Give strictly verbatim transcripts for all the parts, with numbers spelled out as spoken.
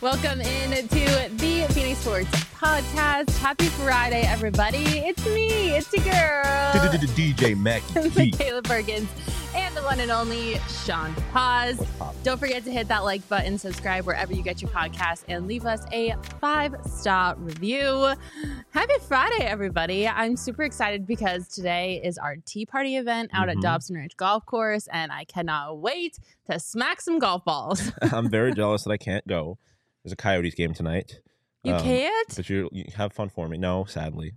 Welcome in to the Phoenix Sports Podcast. Happy Friday, everybody. It's me. It's your girl. D J Mackie. Michaela Perkins. And the one and only Sean Paz. Don't forget to hit that like button, subscribe wherever you get your podcast, and leave us a five-star review. Happy Friday, everybody. I'm super excited because today is our tea party event out mm-hmm. at Dobson Ridge Golf Course, and I cannot wait to smack some golf balls. I'm very jealous that I can't go. There's a Coyotes game tonight. You um, can't? But you, you have fun for me. No, sadly.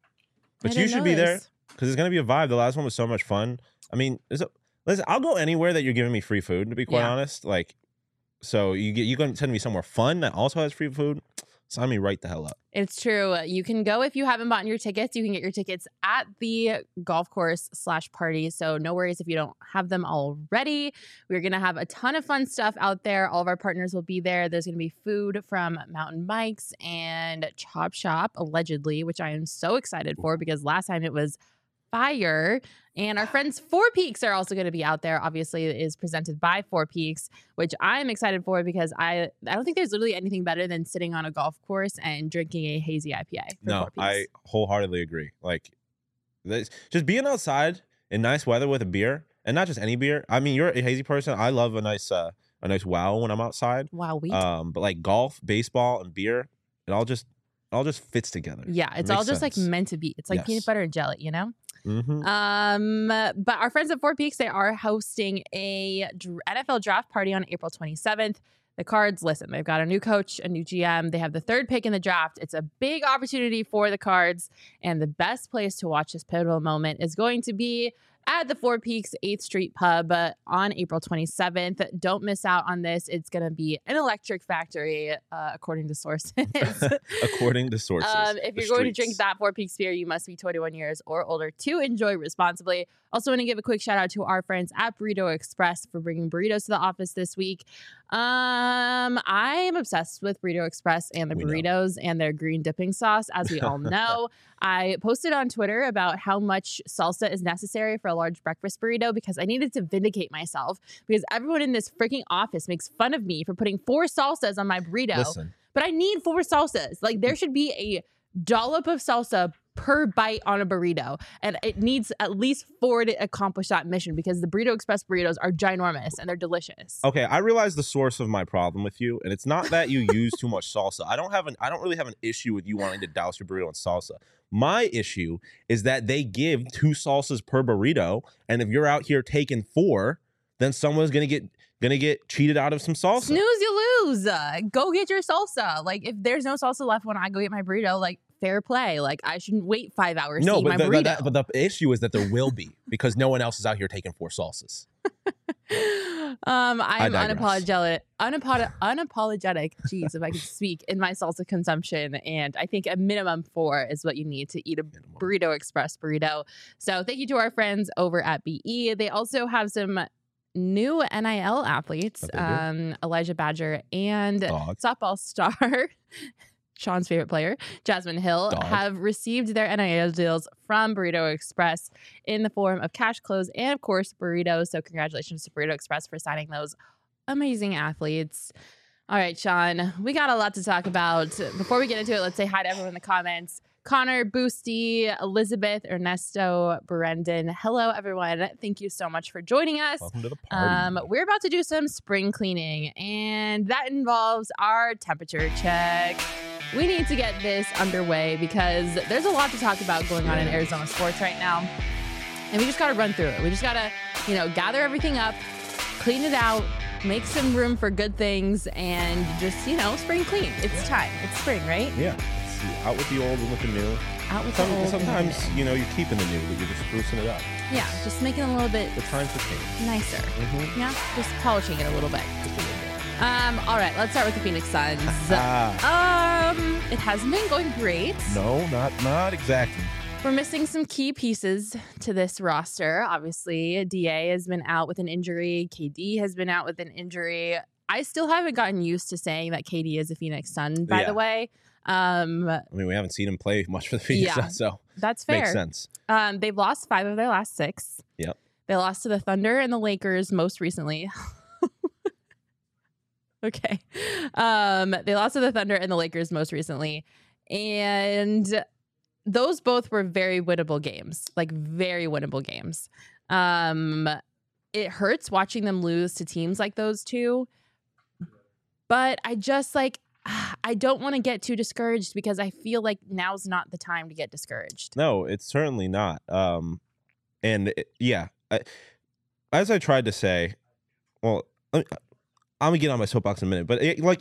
But you should be there because it's going to be a vibe. The last one was so much fun. I mean, is it... Listen, I'll go anywhere that you're giving me free food, to be quite yeah. honest. Like, so you get you going to send me somewhere fun that also has free food? Sign me right the hell up. It's true. You can go if you haven't bought your tickets. You can get your tickets at the golf course slash party. So no worries if you don't have them already. We're going to have a ton of fun stuff out there. All of our partners will be there. There's going to be food from Mountain Mike's and Chop Shop, allegedly, which I am so excited for because last time it was fire. And our friends Four Peaks are also going to be out there. Obviously, it is presented by Four Peaks, which I'm excited for because I I don't think there's literally anything better than sitting on a golf course and drinking a hazy I P A. No, I wholeheartedly agree. Like, just being outside in nice weather with a beer, and not just any beer. I mean, you're a hazy person. I love a nice uh, a nice wow when I'm outside. Wow, we. Um, but like golf, baseball, and beer, it all just it all just fits together. Yeah, it's it all just sense. like meant to be. It's like yes. peanut butter and jelly, you know. Mm-hmm. Um, but our friends at Four Peaks, they are hosting a N F L draft party on April twenty-seventh. The Cards, listen, they've got a new coach, a new G M. They have the third pick in the draft. It's a big opportunity for the Cards. And the best place to watch this pivotal moment is going to be at the Four Peaks eighth Street Pub uh, on April twenty-seventh. Don't miss out on this. It's going to be an electric factory, uh, according to sources. According to sources. Um, if you're going to drink that Four Peaks beer, you must be twenty-one years or older to enjoy responsibly. Also want to give a quick shout out to our friends at Burrito Express for bringing burritos to the office this week. Um, I am obsessed with Burrito Express and the we burritos know. and their green dipping sauce, as we all know. I posted on Twitter about how much salsa is necessary for a large breakfast burrito because I needed to vindicate myself because everyone in this freaking office makes fun of me for putting four salsas on my burrito. Listen. But I need four salsas. Like, there should be a dollop of salsa per bite on a burrito, and it needs at least four to accomplish that mission because the Burrito Express burritos are ginormous and they're delicious. Okay, I realize the source of my problem with you, and it's not that you use too much salsa. I don't have an I don't really have an issue with you wanting to douse your burrito in salsa. My issue is that they give two salsas per burrito, and if you're out here taking four, then someone's gonna get gonna get cheated out of some salsa. Snooze, you lose. Uh, go get your salsa. Like, if there's no salsa left when I go get my burrito, like, fair play. Like, I shouldn't wait five hours no, to eat but my the, burrito. That, but the issue is that there will be because no one else is out here taking four salsas. um, I'm I unapologetic, unapod- unapologetic. Jeez, if I could speak in my salsa consumption, and I think a minimum four is what you need to eat a minimum. Burrito Express burrito. So thank you to our friends over at B E. They also have some new N I L athletes, um, Elijah Badger and Dog. softball star. Sean's favorite player, Jasmine Hill, Dog. have received their N I L deals from Burrito Express in the form of cash, clothes, and, of course, burritos. So congratulations to Burrito Express for signing those amazing athletes. All right, Sean, we got a lot to talk about. Before we get into it, let's say hi to everyone in the comments. Connor, Boosty, Elizabeth, Ernesto, Brendan. Hello, everyone. Thank you so much for joining us. Welcome to the party. Um, we're about to do some spring cleaning, and that involves our temperature check. We need to get this underway because there's a lot to talk about going on in Arizona sports right now. And we just got to run through it. We just got to, you know, gather everything up, clean it out, make some room for good things, and just, you know, spring clean. It's yeah. time. It's spring, right? Yeah. It's out with the old and with the new. Out with Some, the old. Sometimes, you know, you're keeping the new, but you're just sprucing it up. Yeah, just making it a little bit the times have changed. Nicer. Mm-hmm. Yeah, just polishing it a little bit. Just a little bit. Um, all right, let's start with the Phoenix Suns. Ah. um, it hasn't been going great. No, not not exactly. We're missing some key pieces to this roster. Obviously, D A has been out with an injury. K D has been out with an injury. I still haven't gotten used to saying that K D is a Phoenix Sun, by yeah. the way. Um, I mean, we haven't seen him play much for the Phoenix yeah, Suns, so that's fair. Makes sense. Um, they've lost five of their last six. Yep. They lost to the Thunder and the Lakers most recently. Okay. Um, they lost to the Thunder and the Lakers most recently. And those both were very winnable games, like very winnable games. Um, it hurts watching them lose to teams like those two. But I just like, I don't want to get too discouraged because I feel like now's not the time to get discouraged. No, it's certainly not. Um, and it, yeah, I, as I tried to say, well, I, I'm gonna get on my soapbox in a minute, but it, like,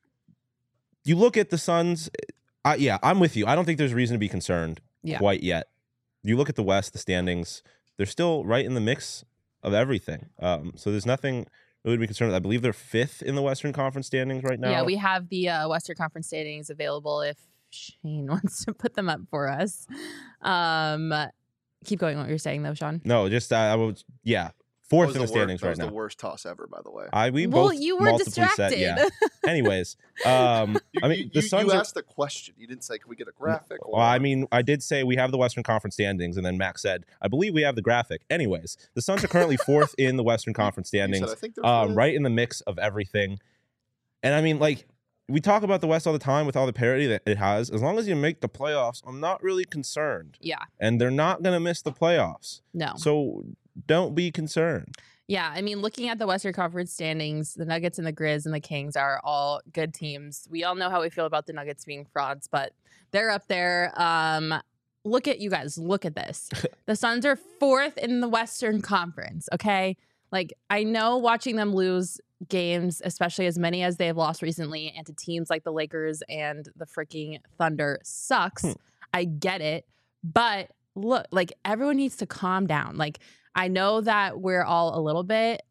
you look at the Suns. I, yeah, I'm with you. I don't think there's reason to be concerned Yeah. quite yet. You look at the West, the standings; they're still right in the mix of everything. Um, so there's nothing really to be concerned with. I believe they're fifth in the Western Conference standings right now. Yeah, we have the uh, Western Conference standings available if Shane wants to put them up for us. Um, keep going what you're saying, though, Sean. No, just uh, I was, yeah, That fourth was in the the standings worst, that right was now. the worst toss ever, by the way. I we Well, both you were multiply distracted. Said, yeah. Anyways, um, You, I mean, you, the you, Suns you are. asked the question. You didn't say, "Can we get a graphic?" Or, Well, I mean, I did say we have the Western Conference standings, and then Max said, "I believe we have the graphic." Anyways, the Suns are currently fourth in the Western Conference you said, standings, I think they're um, fifth. right in the mix of everything. And I mean, like, we talk about the West all the time with all the parity that it has. As long as you make the playoffs, I'm not really concerned. Yeah, And they're not going to miss the playoffs, no. so don't be concerned. Yeah, I mean, looking at the Western Conference standings, the Nuggets and the Grizz and the Kings are all good teams. We all know how we feel about the Nuggets being frauds, but they're up there. Um, look at you guys. Look at this. The Suns are fourth in the Western Conference, okay? Like, I know watching them lose games, especially as many as they have lost recently, and to teams like the Lakers and the freaking Thunder sucks. Hmm. I get it. But look, like, everyone needs to calm down. Like, I know that we're all a little bit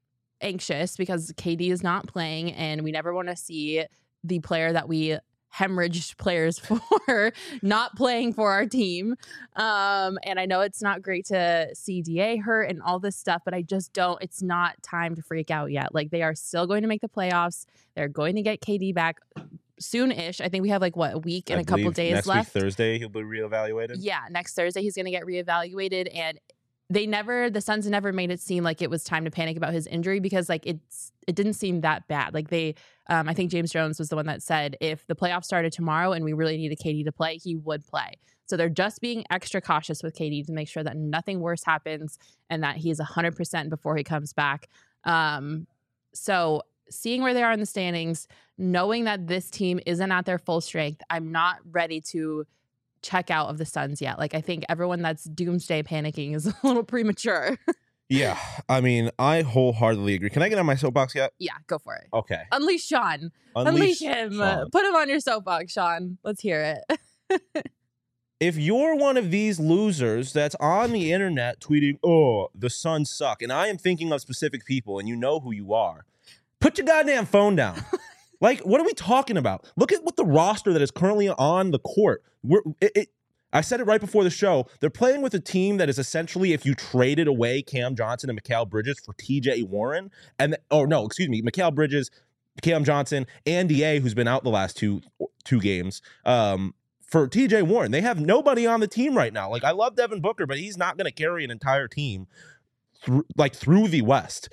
anxious because K D is not playing and we never want to see the player that we hemorrhaged players for not playing for our team. Um, and I know it's not great to see D A hurt and all this stuff, but I just don't, it's not time to freak out yet. Like, they are still going to make the playoffs. They're going to get K D back soon-ish. I think we have like what, a week and I a couple believe days next left. week, Thursday, he'll be reevaluated. Yeah, next Thursday he's going to get reevaluated, and they never, the Suns never made it seem like it was time to panic about his injury because like it's, it didn't seem that bad. Like they, um, I think James Jones was the one that said if the playoffs started tomorrow and we really needed K D to play, he would play. So they're just being extra cautious with K D to make sure that nothing worse happens and that he's one hundred percent before he comes back. Um, so seeing where they are in the standings, knowing that this team isn't at their full strength, I'm not ready to check out of the Suns yet. Like, I think everyone that's doomsday panicking is a little premature. Yeah, I mean, I wholeheartedly agree. Can I get on my soapbox yet? Yeah, go for it. Okay. Unleash Sean. Unleash Unleash, him. Sean. Put him on your soapbox, Sean. Let's hear it. If you're one of these losers that's on the internet tweeting, "Oh, the Suns suck," and I am thinking of specific people, and you know who you are, put your goddamn phone down. Like, what are we talking about? Look at what the roster that is currently on the court. We're, it, it, I said it right before the show. They're playing with a team that is essentially if you traded away Cam Johnson and Mikal Bridges for T J Warren, and oh no, excuse me, Mikal Bridges, Cam Johnson, and D A, who's been out the last two two games, um, for T J Warren. They have nobody on the team right now. Like, I love Devin Booker, but he's not going to carry an entire team through, like through the West.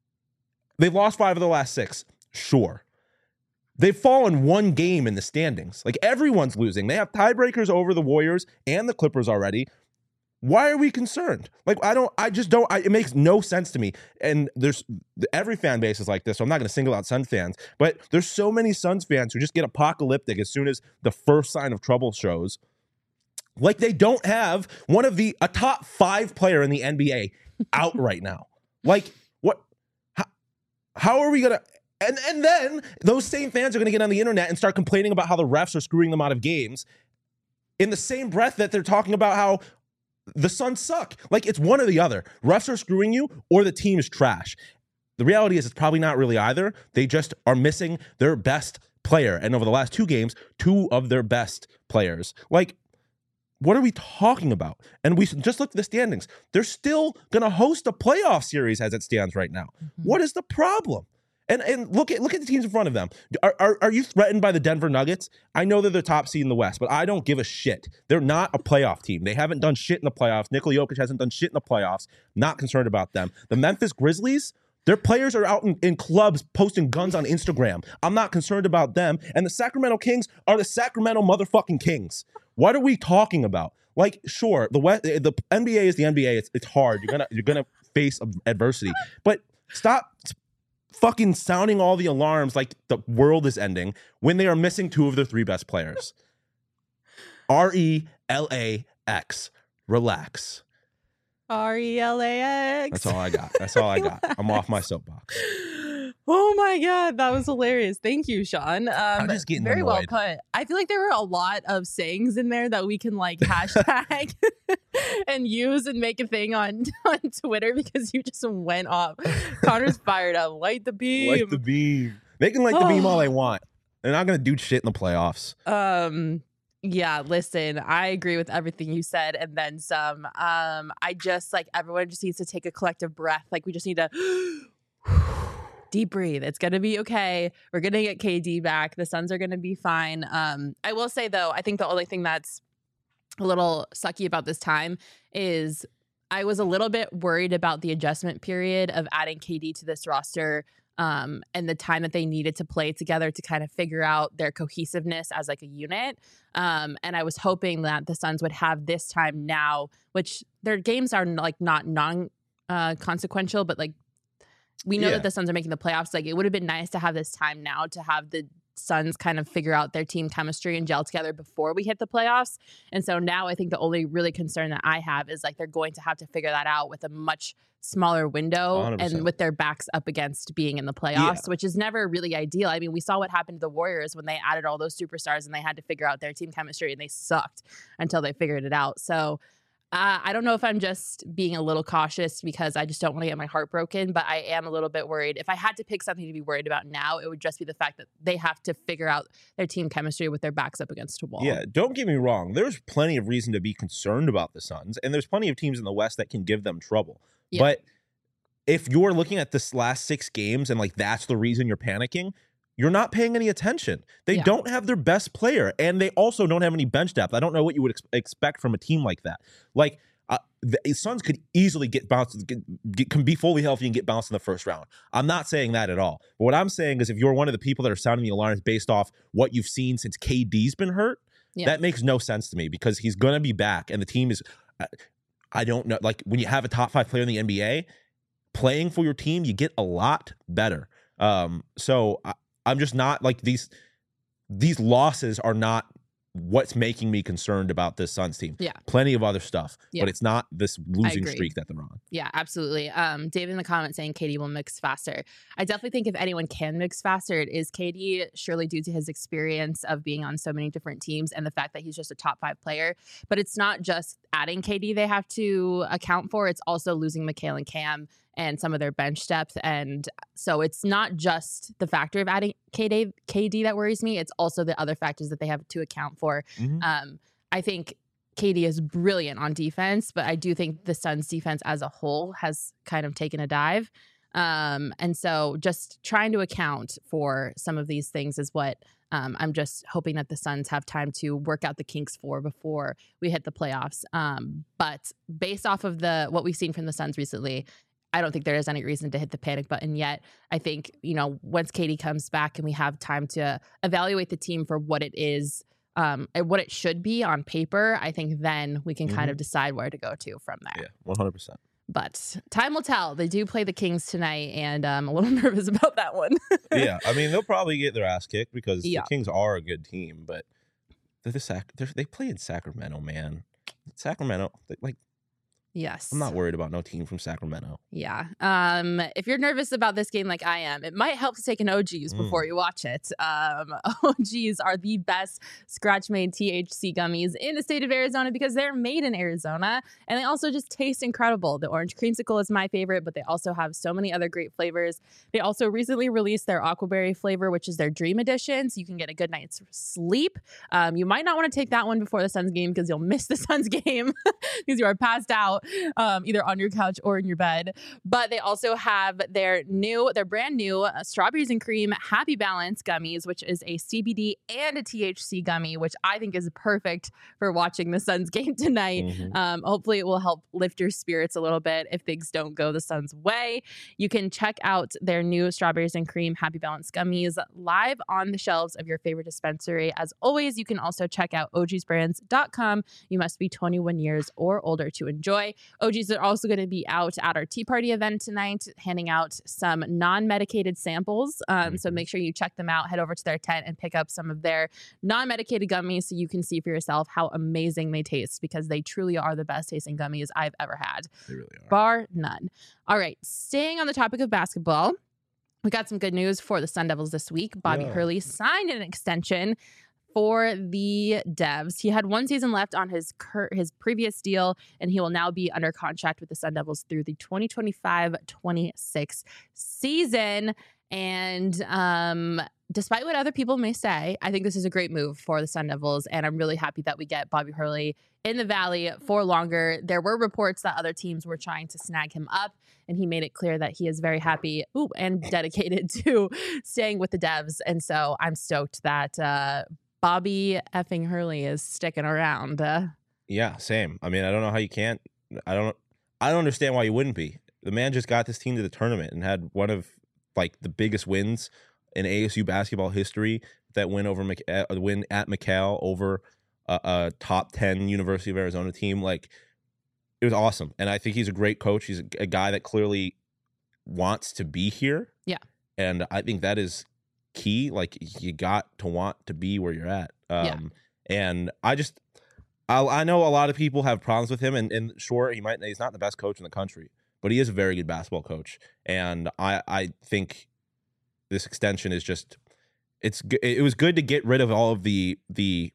They've lost five of the last six, sure. They've fallen one game in the standings. Like, everyone's losing. They have tiebreakers over the Warriors and the Clippers already. Why are we concerned? Like, I don't, I just don't, I, it makes no sense to me. And there's, every fan base is like this, so I'm not going to single out Suns fans, but there's so many Suns fans who just get apocalyptic as soon as the first sign of trouble shows. Like, they don't have one of the, a top five player in the N B A out right now. Like, what, how, how are we going to, And and then those same fans are going to get on the internet and start complaining about how the refs are screwing them out of games in the same breath that they're talking about how the Suns suck. Like, it's one or the other. Refs are screwing you or the team is trash. The reality is it's probably not really either. They just are missing their best player. And over the last two games, two of their best players. Like, what are we talking about? And we just look at the standings. They're still going to host a playoff series as it stands right now. Mm-hmm. What is the problem? And and look at look at the teams in front of them. Are, are are you threatened by the Denver Nuggets? I know they're the top seed in the West, but I don't give a shit. They're not a playoff team. They haven't done shit in the playoffs. Nikola Jokic hasn't done shit in the playoffs. Not concerned about them. The Memphis Grizzlies, Their players are out in, in clubs posting guns on Instagram. I'm not concerned about them. And the Sacramento Kings are the Sacramento motherfucking Kings. What are we talking about? Like, sure, the West, the N B A is the N B A. It's it's hard. You're gonna you're gonna face adversity, but stop fucking sounding all the alarms like the world is ending when they are missing two of their three best players. R E L A X. Relax. R E L A X. That's all I got. That's all I got. I'm off my soapbox. Oh my God, that was hilarious. Thank you, Sean. Um, I'm just getting very annoyed. well put. I feel like there were a lot of sayings in there that we can like hashtag and use and make a thing on, on Twitter because you just went off. Connor's fired up. Light the beam. Light the beam. They can light the beam all they want. They're not going to do shit in the playoffs. Um, yeah, listen, I agree with everything you said and then some. Um, I just like everyone just needs to take a collective breath. Like we just need to deep breathe. It's going to be okay. We're going to get K D back. The Suns are going to be fine. Um, I will say, though, I think the only thing that's a little sucky about this time is I was a little bit worried about the adjustment period of adding K D to this roster um, and the time that they needed to play together to kind of figure out their cohesiveness as like a unit. Um, and I was hoping that the Suns would have this time now, which their games are like not non uh, consequential, but like we know Yeah. that the Suns are making the playoffs. Like, it would have been nice to have this time now to have the Suns kind of figure out their team chemistry and gel together before we hit the playoffs. And so now I think the only really concern that I have is like they're going to have to figure that out with a much smaller window one hundred percent. and with their backs up against being in the playoffs, Yeah. which is never really ideal. I mean, we saw what happened to the Warriors when they added all those superstars and they had to figure out their team chemistry and they sucked until they figured it out. So Uh, I don't know if I'm just being a little cautious because I just don't want to get my heart broken, but I am a little bit worried. If I had to pick something to be worried about now, it would just be the fact that they have to figure out their team chemistry with their backs up against a wall. Yeah, don't get me wrong. There's plenty of reason to be concerned about the Suns, and there's plenty of teams in the West that can give them trouble. Yeah. But if you're looking at this last six games and like that's the reason you're panicking, you're not paying any attention. They Yeah. don't have their best player, and they also don't have any bench depth. I don't know what you would ex- expect from a team like that. Like, uh, the Suns could easily get bounced, get, get, can be fully healthy and get bounced in the first round. I'm not saying that at all. But what I'm saying is if you're one of the people that are sounding the alarms based off what you've seen since K D's been hurt, Yeah. that makes no sense to me because he's going to be back, and the team is, uh, I don't know, like when you have a top five player in the N B A, playing for your team, you get a lot better. Um, so I, I'm just not like these these losses are not what's making me concerned about this Suns team. Yeah. Plenty of other stuff, Yeah. but it's not this losing agree. streak that they're on. Yeah, absolutely. Um, David in the comments saying K D will mix faster. I definitely think if anyone can mix faster, it is K D, surely due to his experience of being on so many different teams and the fact that he's just a top five player. But it's not just adding K D they have to account for. It's also losing Mikal and Cam and some of their bench depth. And so it's not just the factor of adding K D, K D that worries me. It's also the other factors that they have to account for. Mhm. Um, I think K D is brilliant on defense, but I do think the Suns defense as a whole has kind of taken a dive. Um, and so just trying to account for some of these things is what um, I'm just hoping that the Suns have time to work out the kinks for before we hit the playoffs. Um, but based off of the what we've seen from the Suns recently, I don't think there is any reason to hit the panic button yet. I think, you know, once K D comes back and we have time to evaluate the team for what it is, um, and what it should be on paper, I think then we can kind of decide where to go to from there. Yeah, one hundred percent. But time will tell. They do play the Kings tonight, and I'm a little nervous about that one. Yeah, I mean, they'll probably get their ass kicked because Yeah. the Kings are a good team, but they're the Sac- they're, they play in Sacramento, man. Sacramento, they, like, Yes. I'm not worried about no team from Sacramento. Yeah. Um, if you're nervous about this game like I am, it might help to take an O G's Mm. before you watch it. Um, O G's are the best scratch-made T H C gummies in the state of Arizona because they're made in Arizona, and they also just taste incredible. The orange creamsicle is my favorite, but they also have so many other great flavors. They also recently released their aquaberry flavor, which is their dream edition, so you can get a good night's sleep. Um, you might not want to take that one before the Suns game because you'll miss the Suns game because you are passed out. um, either on your couch or in your bed. But they also have their new, their brand new uh, strawberries and cream Happy Balance gummies, which is a C B D and a T H C gummy, which I think is perfect for watching the Suns game tonight. Mhm. Um, hopefully it will help lift your spirits a little bit if things don't go the Suns' way. You can check out their new strawberries and cream Happy Balance gummies live on the shelves of your favorite dispensary. As always, you can also check out O Gs brands dot com. You must be twenty-one years or older to enjoy. O Gs are also going to be out at our Tea Party event tonight, handing out some non-medicated samples. Um, so Mhm. make sure you check them out. Head over to their tent and pick up some of their non-medicated gummies so you can see for yourself how amazing they taste, because they truly are the best tasting gummies I've ever had, They really are. bar none. All right, staying on the topic of basketball, we got some good news for the Sun Devils this week. Bobby Yeah. Hurley signed an extension for the Devs. He had one season left on his cur- his previous deal, and he will now be under contract with the Sun Devils through the twenty twenty-five twenty-six season. And um, despite what other people may say, I think this is a great move for the Sun Devils, and I'm really happy that we get Bobby Hurley in the Valley for longer. There were reports that other teams were trying to snag him up, and he made it clear that he is very happy ooh, and dedicated to staying with the Devs. And so I'm stoked that uh, Bobby effing Hurley is sticking around. Uh, Yeah, same. I mean, I don't know how you can't. I don't. I don't understand why you wouldn't be. The man just got this team to the tournament and had one of like the biggest wins in A S U basketball history. That win over Mc, uh, win at McCall over a, a top ten University of Arizona team. Like, it was awesome, and I think he's a great coach. He's a, a guy that clearly wants to be here. Yeah, and I think that is key. Like, you got to want to be where you're at. Um, Yeah. And I just, I, I know a lot of people have problems with him, and, and sure, he might, he's not the best coach in the country, but he is a very good basketball coach. And I, I think this extension is just, it's, g- it was good to get rid of all of the, the,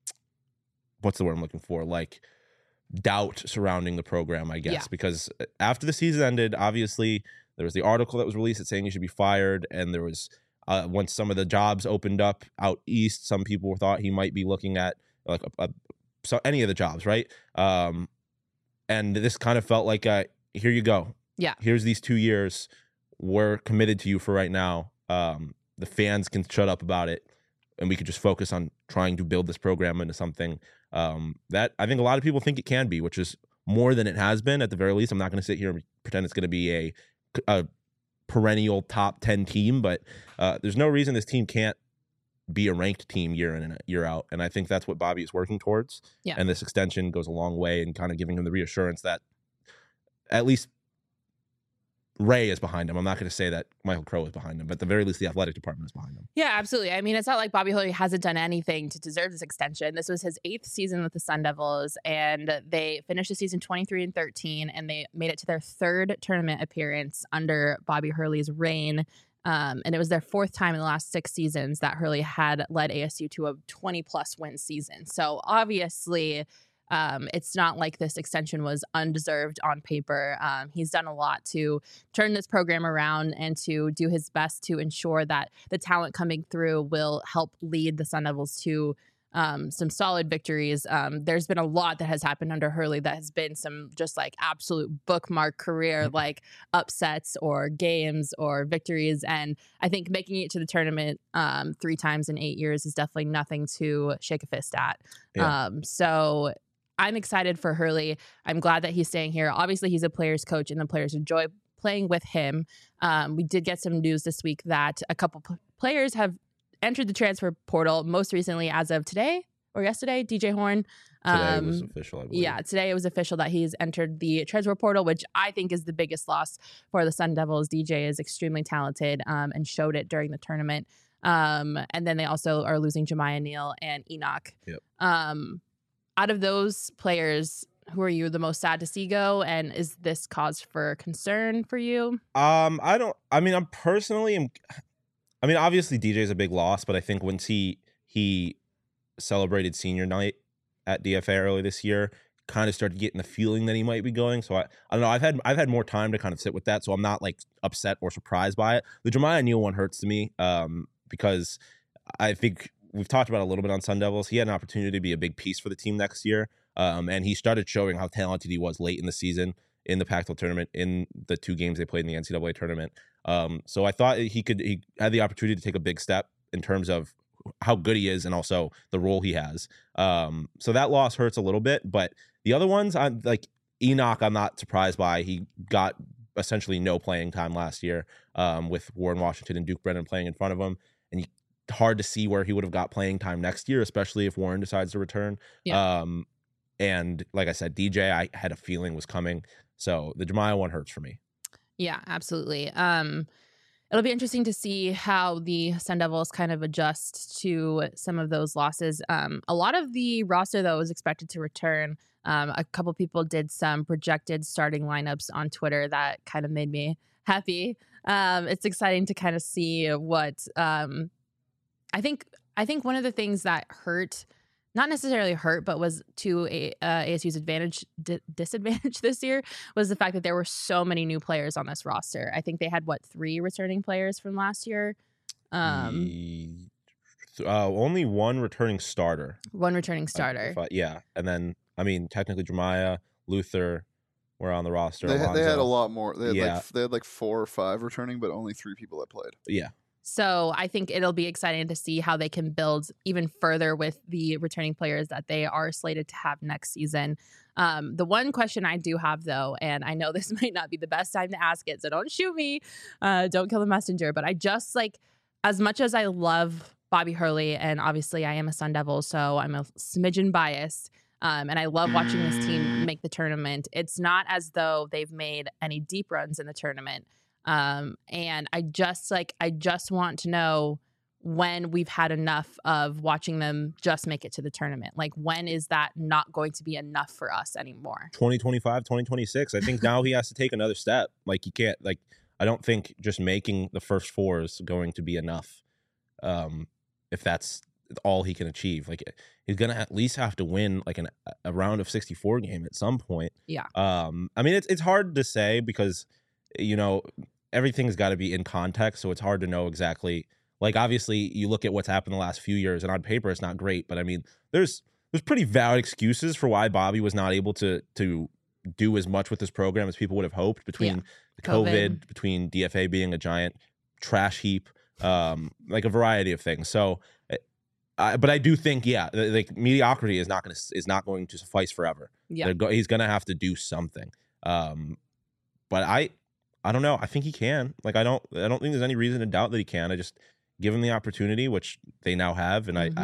what's the word I'm looking for? Like, doubt surrounding the program, I guess, Yeah. because after the season ended, obviously there was the article that was released that saying he should be fired, and there was uh, once some of the jobs opened up out east, some people thought he might be looking at like a, a, so any of the jobs, right? Um, and this kind of felt like a, here you go, Yeah. here's these two years, we're committed to you for right now. Um, the fans can shut up about it, and we could just focus on trying to build this program into something um, that I think a lot of people think it can be, which is more than it has been at the very least. I'm not going to sit here and pretend it's going to be a, a perennial top ten team, but uh, there's no reason this team can't be a ranked team year in and year out. And I think that's what Bobby is working towards. Yeah. And this extension goes a long way in kind of giving him the reassurance that at least Ray is behind him. I'm not going to say that Michael Crow is behind him, but at the very least, the athletic department is behind him. Yeah, absolutely. I mean, it's not like Bobby Hurley hasn't done anything to deserve this extension. This was his eighth season with the Sun Devils, and they finished the season twenty-three and thirteen, and they made it to their third tournament appearance under Bobby Hurley's reign. Um, and it was their fourth time in the last six seasons that Hurley had led A S U to a twenty plus win season. So obviously, Um, it's not like this extension was undeserved on paper. Um, he's done a lot to turn this program around and to do his best to ensure that the talent coming through will help lead the Sun Devils to um, some solid victories. Um, there's been a lot that has happened under Hurley that has been some just like absolute bookmark career, like upsets or games or victories. And I think making it to the tournament um, three times in eight years is definitely nothing to shake a fist at. Yeah. Um, so I'm excited for Hurley. I'm glad that he's staying here. Obviously, he's a player's coach, and the players enjoy playing with him. Um, we did get some news this week that a couple p- players have entered the transfer portal. Most recently, as of today or yesterday, D J Horn. Today Um, was official, I believe. yeah, today it was official that he's entered the transfer portal, which I think is the biggest loss for the Sun Devils. D J is extremely talented um, and showed it during the tournament. Um, and then they also are losing Jemiah Neal and Enoch. Yep. Um, out of those players, who are you the most sad to see go? And is this cause for concern for you? Um, I don't. I mean, I'm personally. am- I mean, obviously, D J is a big loss, but I think once he he celebrated senior night at D F A early this year, kind of started getting the feeling that he might be going. So I, I don't know. I've had I've had more time to kind of sit with that, so I'm not like upset or surprised by it. The Jemiah Neal one hurts to me, um, because I think we've talked about it a little bit on Sun Devils. He had an opportunity to be a big piece for the team next year. Um, and he started showing how talented he was late in the season in the Pac twelve tournament, in the two games they played in the N C double A tournament. Um, so I thought he could he had the opportunity to take a big step in terms of how good he is and also the role he has. Um, so that loss hurts a little bit, but the other ones, I'm like Enoch, I'm not surprised by. He got essentially no playing time last year um, with Warren Washington and Duke Brennan playing in front of him. And you, hard to see where he would have got playing time next year, especially if Warren decides to return. Yeah. Um, and like I said, D J, I had a feeling was coming. So the Jemiah one hurts for me. Yeah, absolutely. Um, it'll be interesting to see how the Sun Devils kind of adjust to some of those losses. Um, a lot of the roster, though, is expected to return. Um, a couple people did some projected starting lineups on Twitter that kind of made me happy. Um, it's exciting to kind of see what um, I think. I think one of the things that hurt, not necessarily hurt, but was to a, uh, A S U's advantage, di- disadvantage this year, was the fact that there were so many new players on this roster. I think they had, what, three returning players from last year? Um, Ye- uh, only one returning starter. one returning I- starter. if I- yeah. And then, I mean, technically Jemiah, Luther were on the roster. They, had- they had a Alonzo. lot more. They had Yeah. like they had like four or five returning, but only three people that played. Yeah. So I think it'll be exciting to see how they can build even further with the returning players that they are slated to have next season. Um, the one question I do have, though, and I know this might not be the best time to ask it, so don't shoot me, uh, don't kill the messenger, but I just like, as much as I love Bobby Hurley, and obviously I am a Sun Devil, so I'm a smidgen biased, um, and I love watching this team make the tournament. It's not as though they've made any deep runs in the tournament. Um, and I just like, I just want to know when we've had enough of watching them just make it to the tournament. Like, when is that not going to be enough for us anymore? twenty twenty-five, twenty twenty-six. I think now he has to take another step. Like, he can't, like, I don't think just making the first four is going to be enough. Um, if that's all he can achieve, like, he's going to at least have to win like an, a round of sixty-four game at some point. Yeah. Um, I mean, it's, it's hard to say because, you know, everything's got to be in context. So it's hard to know exactly. Like, obviously, you look at what's happened the last few years, and on paper, it's not great. But I mean, there's there's pretty valid excuses for why Bobby was not able to to do as much with this program as people would have hoped. Between Yeah. the COVID, COVID. between D F A being a giant trash heap, um, like a variety of things. So, I, but I do think, yeah, like mediocrity is not going to is not going to suffice forever. Yeah. Go, he's going to have to do something. Um, but I. I don't know. I think he can. Like, I don't. I don't think there's any reason to doubt that he can. I just give him the opportunity, which they now have, and Mhm. I,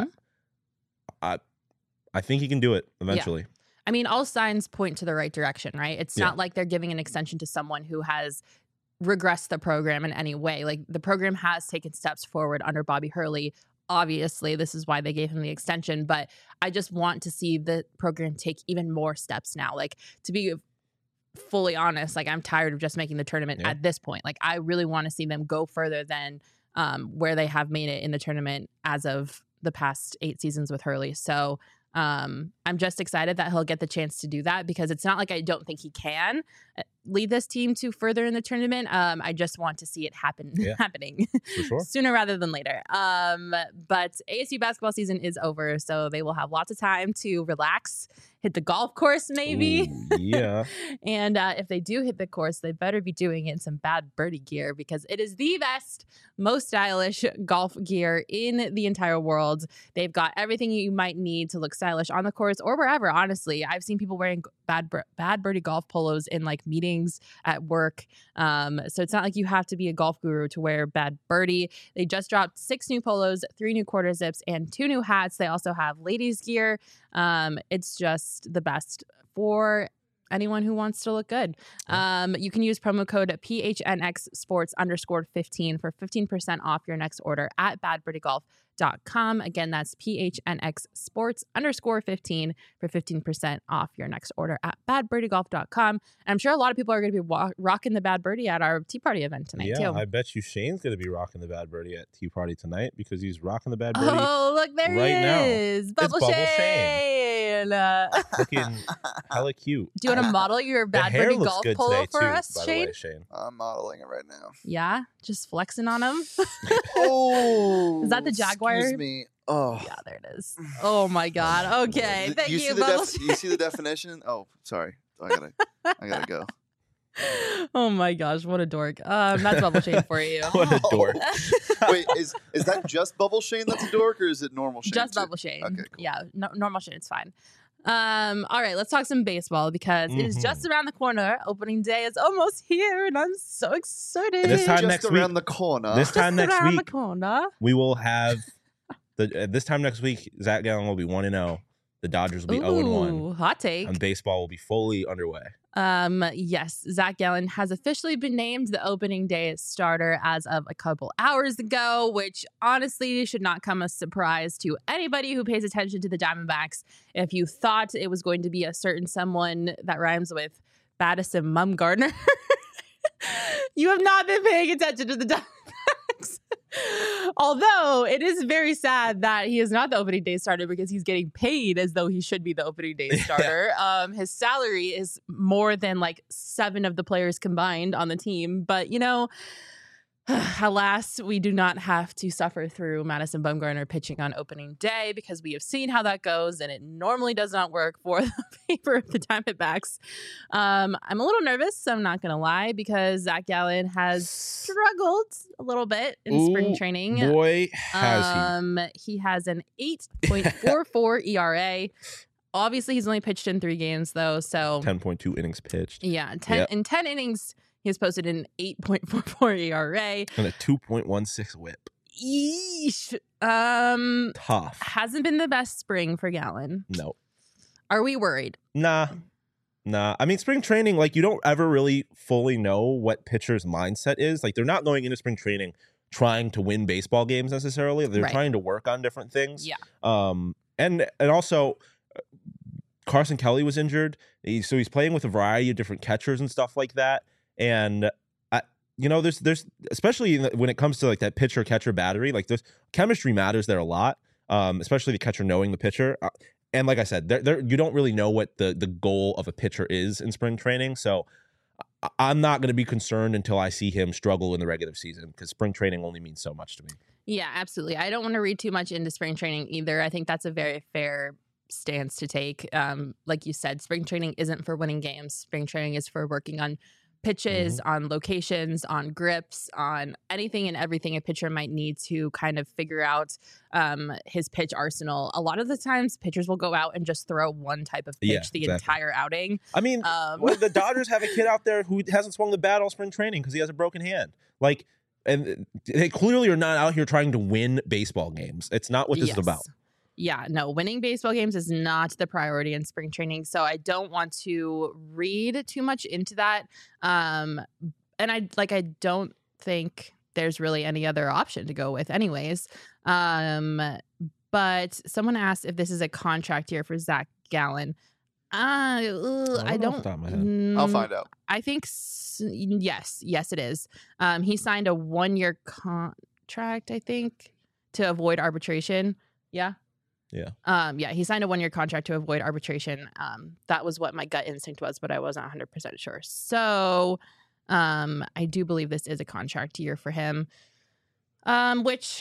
I, I, I think he can do it eventually. I mean, all signs point to the right direction, right? It's Yeah. not like they're giving an extension to someone who has regressed the program in any way. Like, the program has taken steps forward under Bobby Hurley. Obviously, this is why they gave him the extension, but I just want to see the program take even more steps now. Like, to be fully honest, like, I'm tired of just making the tournament Yeah. at this point. Like, I really want to see them go further than um, where they have made it in the tournament as of the past eight seasons with Hurley. So um, I'm just excited that he'll get the chance to do that, because it's not like I don't think he can lead this team to further in the tournament. Um, I just want to see it happen Yeah. happening For sure. sooner rather than later. Um, but A S U basketball season is over, so they will have lots of time to relax, hit the golf course maybe. Ooh, yeah. And uh, if they do hit the course, they better be doing it in some Bad Birdie gear, because it is the best, most stylish golf gear in the entire world. They've got everything you might need to look stylish on the course or wherever, honestly. I've seen people wearing Bad, Bad Birdie golf polos in like meetings at work. Um, so it's not like you have to be a golf guru to wear Bad Birdie. They just dropped six new polos, three new quarter zips, and two new hats. They also have ladies gear. Um, it's just the best for anyone who wants to look good. Um, you can use promo code P H N X sports underscore fifteen for fifteen percent off your next order at bad birdie golf dot com. Again, that's P H N X sports underscore fifteen for fifteen percent off your next order at bad birdie golf dot com. And I'm sure a lot of people are going to be wa- rocking the Bad Birdie at our Tea Party event tonight, Yeah, too. I bet you Shane's going to be rocking the Bad Birdie at Tea Party tonight because he's rocking the Bad Birdie. Oh, look, there right he now. is. Bubble, Bubble Shane. Uh, Looking hella cute. do you want to model your The Bad hair Birdie looks golf good polo today, for too, us, by the Shane? way, Shane. I'm modeling it right now. Yeah, just flexing on him. Oh, Is that the Jaguar somewhere. Excuse me. Oh. Yeah, there it is. Oh my God. Okay, Th- thank you. you, See the Bubble def- you see the definition? Oh, sorry. I gotta. I gotta go. Oh my gosh, what a dork. Um, that's Bubble Shane for you. What a dork. Wait, is is that just Bubble Shane that's a dork, or is it normal Shane? Just too? Bubble Shane. Okay, cool. Yeah, no, normal Shane, it's fine. Um, all right, let's talk some baseball because it is Mhm. just around the corner. Opening day is almost here, and I'm so excited. This time Just next around week- the corner. This time Just next around week, the corner. we will have the. Uh, this time next week, Zach Gallen will be one and zero. The Dodgers will be zero and one, Ooh, hot take. and baseball will be fully underway. Um, yes, Zach Gallen has officially been named the opening day starter as of a couple hours ago, which honestly should not come as a surprise to anybody who pays attention to the Diamondbacks. If you thought it was going to be a certain someone that rhymes with Baddison Mumgardner, you have not been paying attention to the Diamondbacks. Although it is very sad that he is not the opening day starter because he's getting paid as though he should be the opening day starter. Um, his salary is more than like seven of the players combined on the team. But, you know, alas, we do not have to suffer through Madison Bumgarner pitching on opening day because we have seen how that goes, and it normally does not work for the favor of the Diamondbacks. Um, I'm a little nervous, I'm not going to lie, because Zach Gallen has struggled a little bit in spring Ooh, training. Boy, has um, he. he has an eight point four four E R A. Obviously, he's only pitched in three games, though, so he. ten point two innings pitched yeah, ten, Yep. in ten innings, he has posted an eight point four four E R A. and a two point one six whip. Yeesh. Um, Tough. hasn't been the best spring for Gallen. No. Are we worried? Nah. Nah. I mean, spring training, like, you don't ever really fully know what pitcher's mindset is. Like, they're not going into spring training trying to win baseball games necessarily. They're Right. trying to work on different things. Yeah. Um, and and also, uh, Carson Kelly was injured. He, so he's playing with a variety of different catchers and stuff like that. And I, you know, there's there's especially in the- when it comes to like that pitcher catcher battery, like there's chemistry matters there a lot. Um, especially the catcher knowing the pitcher. Uh, and like I said, there there you don't really know what the the goal of a pitcher is in spring training. So I- I'm not going to be concerned until I see him struggle in the regular season because spring training only means so much to me. Yeah, absolutely. I don't want to read too much into spring training either. I think that's a very fair stance to take. Um, like you said, spring training isn't for winning games. Spring training is for working on pitches, on locations, on grips, on anything and everything a pitcher might need to kind of figure out um, his pitch arsenal. A lot of the times, pitchers will go out and just throw one type of pitch Yeah, the exactly. entire outing. I mean, Um, well, the Dodgers have a kid out there who hasn't swung the bat all spring training because he has a broken hand. Like, and they clearly are not out here trying to win baseball games. It's not what this Yes. is about. Yeah, no, winning baseball games is not the priority in spring training. So I don't want to read too much into that. Um, and I like I don't think there's really any other option to go with anyways. Um, but someone asked if this is a contract year for Zach Gallen. Uh, ugh, I I don't know off don't. the top of my head. I'll mm, find out. I think s- yes, yes, it is. Um, he signed a one-year contract, I think, to avoid arbitration. Yeah. Yeah. Um, yeah, he signed a one-year contract to avoid arbitration. Um, that was what my gut instinct was, but I wasn't one hundred percent sure. So, um, I do believe this is a contract year for him. Um, which,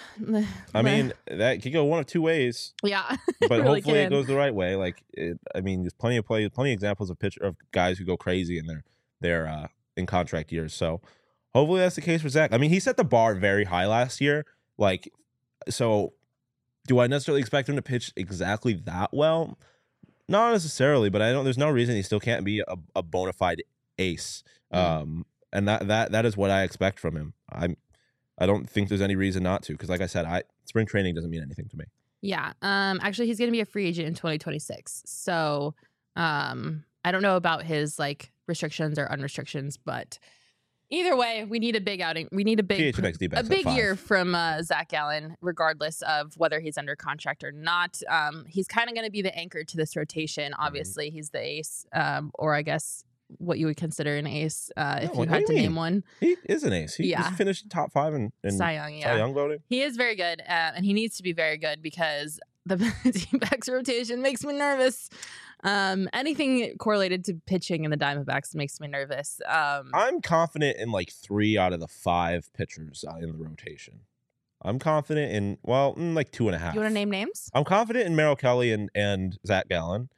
I mean, that could go one of two ways, yeah, but really hopefully it can. goes the right way. Like, it, I mean, there's plenty of play, plenty of examples of pitcher of guys who go crazy and they're they're uh, in contract years. So hopefully that's the case for Zach. I mean, he set the bar very high last year. Like, so do I necessarily expect him to pitch exactly that well? Not necessarily, but I don't. There's no reason he still can't be a, a bona fide ace. Mm. Um, and that that that is what I expect from him. I'm. I don't think there's any reason not to, because like I said, I spring training doesn't mean anything to me. Yeah. Um, actually, he's going to be a free agent in twenty twenty-six. So, um, I don't know about his like restrictions or unrestrictions, but either way, we need a big outing. We need a big, P H M X D a backs up big five. year from uh, Zach Gallen, regardless of whether he's under contract or not. Um, he's kind of going to be the anchor to this rotation. Mm-hmm. Obviously, he's the ace, um, or I guess what you would consider an ace uh, if No, you what do had you to mean? name one. He is an ace. He, Yeah. he's finished top five in, in Cy Young, yeah. Cy Young voting. He is very good, uh, and he needs to be very good because the Diamondbacks rotation makes me nervous. Um, anything correlated to pitching in the Diamondbacks makes me nervous. Um, I'm confident in like three out of the five pitchers uh, in the rotation. I'm confident in, well, mm, like two and a half. You want to name names? I'm confident in Merrill Kelly and, and Zach Gallen.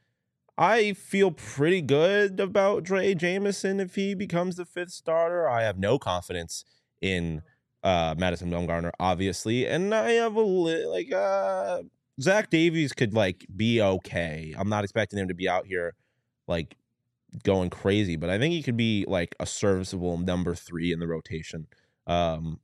I feel pretty good about Dre Jameson if he becomes the fifth starter. I have no confidence in uh, Madison Bumgarner, obviously. And I have a li- like uh, Zach Davies could like be okay. I'm not expecting him to be out here like going crazy, but I think he could be like a serviceable number three in the rotation. Um,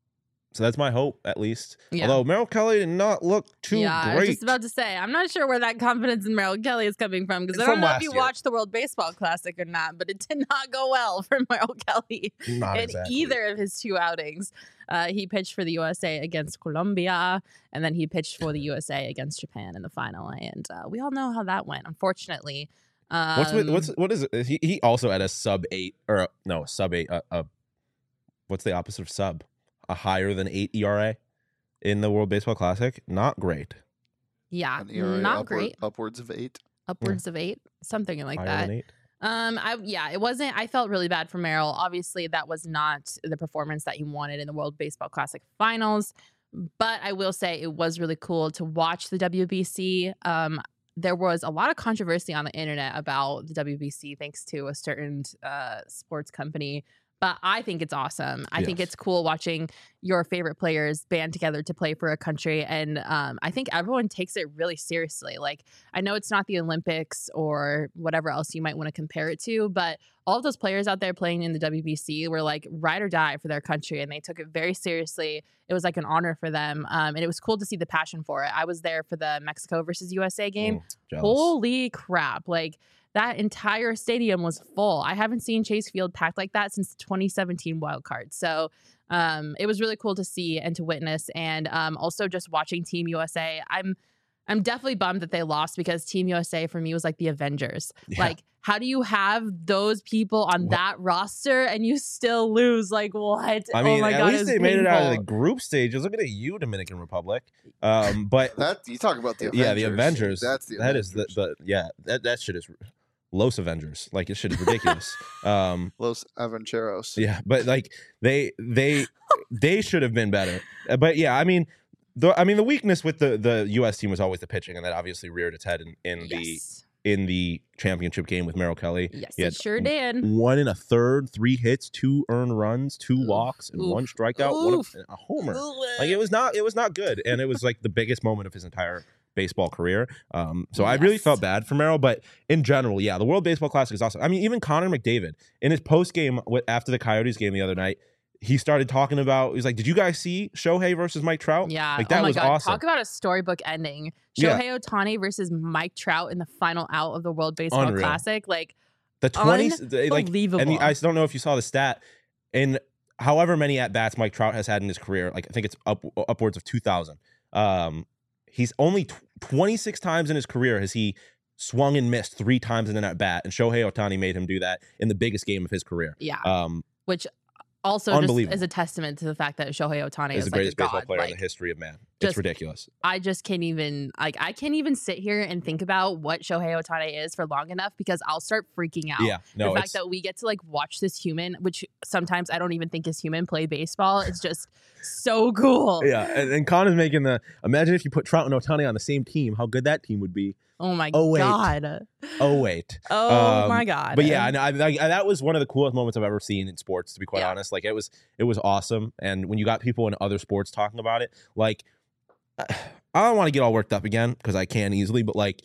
So that's my hope, at least. Yeah. Although Merrill Kelly did not look too yeah, great. I was just about to say, I'm not sure where that confidence in Merrill Kelly is coming from because I From don't know if last you year. watched the World Baseball Classic or not, but it did not go well for Merrill Kelly Not in exactly. either of his two outings. Uh, he pitched for the U S A against Colombia, and then he pitched for the U S A against Japan in the final. And uh, we all know how that went, unfortunately. Um, What's with, what's what is it? He he also had a sub eight or a, no a sub eight. A, a what's the opposite of sub? A higher than eight E R A in the World Baseball Classic. Not great. yeah, An E R A not upward- great. Upwards of eight. Upwards of eight, something like Higher that. than eight. Um, I yeah, it wasn't. I felt really bad for Merrill. Obviously, that was not the performance that he wanted in the World Baseball Classic Finals. But I will say it was really cool to watch the W B C. Um, there was a lot of controversy on the internet about the W B C, thanks to a certain uh, sports company. But I think it's awesome. I think Yes. it's cool watching your favorite players band together to play for a country. And um, I think everyone takes it really seriously. Like, I know it's not the Olympics or whatever else you might want to compare it to, but all of those players out there playing in the W B C were like ride or die for their country. And they took it very seriously. It was like an honor for them. Um, and it was cool to see the passion for it. I was there for the Mexico versus U S A game. Mm, jealous. Holy crap. Like, that entire stadium was full. I haven't seen Chase Field packed like that since the twenty seventeen wild card. So um, it was really cool to see and to witness. And um, also just watching Team U S A. I'm I'm definitely bummed that they lost because Team U S A for me was like the Avengers. Yeah. Like, how do you have those people on What? that roster and you still lose? Like, what? I mean, oh my at God, least it they was made it out of the painful. group stages. Look at you, Dominican Republic. Um, but That you talk about the Avengers. yeah, the Avengers. That's the that Avengers. is the, the yeah that that shit is Los Avengers. Like, this shit is ridiculous. um, Los Aventureros. Yeah, but like they they they should have been better. Uh, But yeah, I mean, the I mean the weakness with the the U S team was always the pitching, and that obviously reared its head in, in the Yes. in the championship game with Merrill Kelly. Yes, He it had sure did. One and a third, three hits, two earned runs, two Oof, walks, and oof, one strikeout, one oof. of, a homer. Like, it was not it was not good, and it was like the biggest moment of his entire baseball career. Um, so I really Yes. felt bad for Merrill, but in general, yeah, the World Baseball Classic is awesome. I mean, even Connor McDavid in his post game after the Coyotes game the other night, he started talking about. He was like, "Did you guys see Shohei versus Mike Trout? Yeah. like that oh my was God. awesome." Talk about a storybook ending. Yeah. Shohei Ohtani versus Mike Trout in the final out of the World Baseball Unreal. Classic. Like, The twenties, like, unbelievable. and the, I don't know if you saw the stat. In however many at bats Mike Trout has had in his career, like I think it's up upwards of two thousand. Um, he's only tw- twenty-six times in his career has he swung and missed three times in an at bat, and Shohei Ohtani made him do that in the biggest game of his career. yeah. Um, Which also just Unbelievable. is a testament to the fact that Shohei Ohtani is is the like a greatest baseball god. player Like, in the history of man. just- It's ridiculous. I just can't even like I can't even sit here and think about what Shohei Ohtani is for long enough because I'll start freaking out. Yeah, no, the fact it's that we get to like watch this human, which sometimes I don't even think is human, play baseball, it's just so cool. yeah. And, and Connor's making the imagine if you put Trout and Ohtani on the same team, how good that team would be. Oh my Oh, wait. god. Oh wait. Oh Um, my god. But yeah, I, I, I, that was one of the coolest moments I've ever seen in sports. To be quite Yeah. honest, like it was, it was awesome. And when you got people in other sports talking about it, like I don't want to get all worked up again because I can easily, but like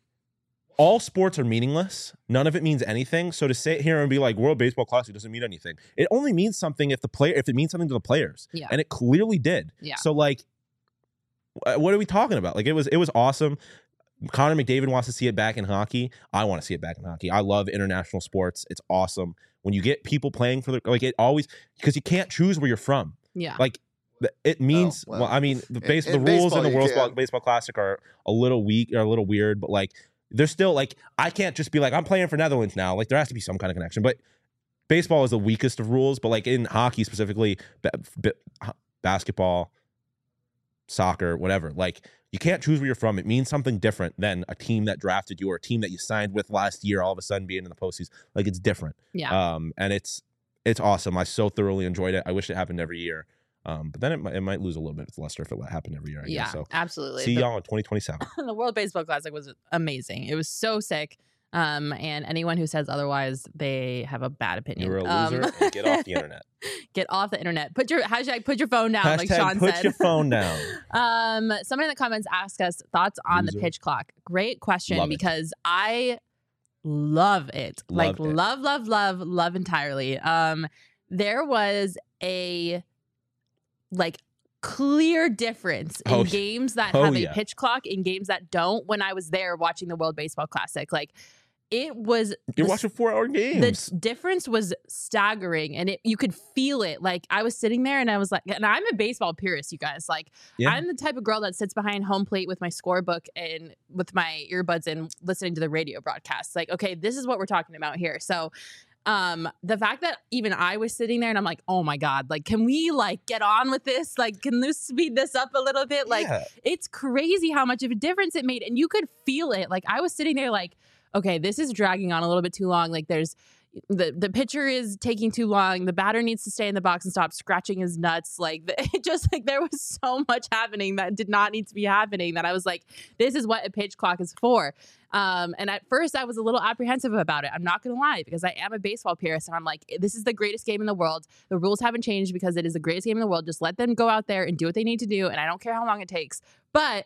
all sports are meaningless. None of it means anything. So to sit here and be like World Baseball Classic doesn't mean anything. It only means something if the player, if it means something to the players, Yeah. and it clearly did. Yeah. So like, wh- what are we talking about? Like it was, it was awesome. Connor McDavid wants to see it back in hockey. I want to see it back in hockey. I love international sports. It's awesome when you get people playing for the like it always because you can't choose where you're from. yeah. Like th- it means well, well, I mean the in- base in the rules baseball in the you World can. Baseball, Baseball Classic are a little weak, are a little weird, but like they're still like I can't just be like I'm playing for Netherlands now. Like there has to be some kind of connection. But baseball is the weakest of rules. But like in hockey specifically, ba- ba- basketball, soccer, whatever. Like you can't choose where you're from. It means something different than a team that drafted you or a team that you signed with last year. All of a sudden being in the postseason, like it's different. yeah. Um, and it's it's awesome. I so thoroughly enjoyed it. I wish it happened every year. Um, but then it might, it might lose a little bit with luster if it happened every year. I yeah, guess. So absolutely. see The- y'all in twenty twenty-seven. the World Baseball Classic was amazing. It was so sick. Um, and anyone who says otherwise, they have a bad opinion. You're a Um, loser and get off the internet. Get off the internet. Put your hashtag. Put your phone down, like Hashtag Sean put said. your phone down. Um, someone in the comments asked us thoughts on Loser. the pitch clock. Great question Love it. because I love it. like Loved it. love, love, love, love entirely. Um, there was a like clear difference in Oh, yeah. games that Oh, have a yeah. pitch clock and games that don't when I was there watching the World Baseball Classic. Like it was You're the watching four hour games. the difference was staggering and it you could feel it. Like I was sitting there and I was like, and I'm a baseball purist, you guys. Like Yeah. I'm the type of girl that sits behind home plate with my scorebook and with my earbuds and listening to the radio broadcasts. Like, okay, this is what we're talking about here. So um the fact that even I was sitting there and I'm like, oh my God, like can we like get on with this? Like, can this speed this up a little bit? Like Yeah. it's crazy how much of a difference it made. And you could feel it. Like I was sitting there like, okay, this is dragging on a little bit too long. Like there's the the pitcher is taking too long. The batter needs to stay in the box and stop scratching his nuts. Like the, it just like there was so much happening that did not need to be happening that I was like, this is what a pitch clock is for. Um, and at first I was a little apprehensive about it. I'm not going to lie because I am a baseball purist and I'm like, this is the greatest game in the world. The rules haven't changed because it is the greatest game in the world. Just let them go out there and do what they need to do. And I don't care how long it takes. But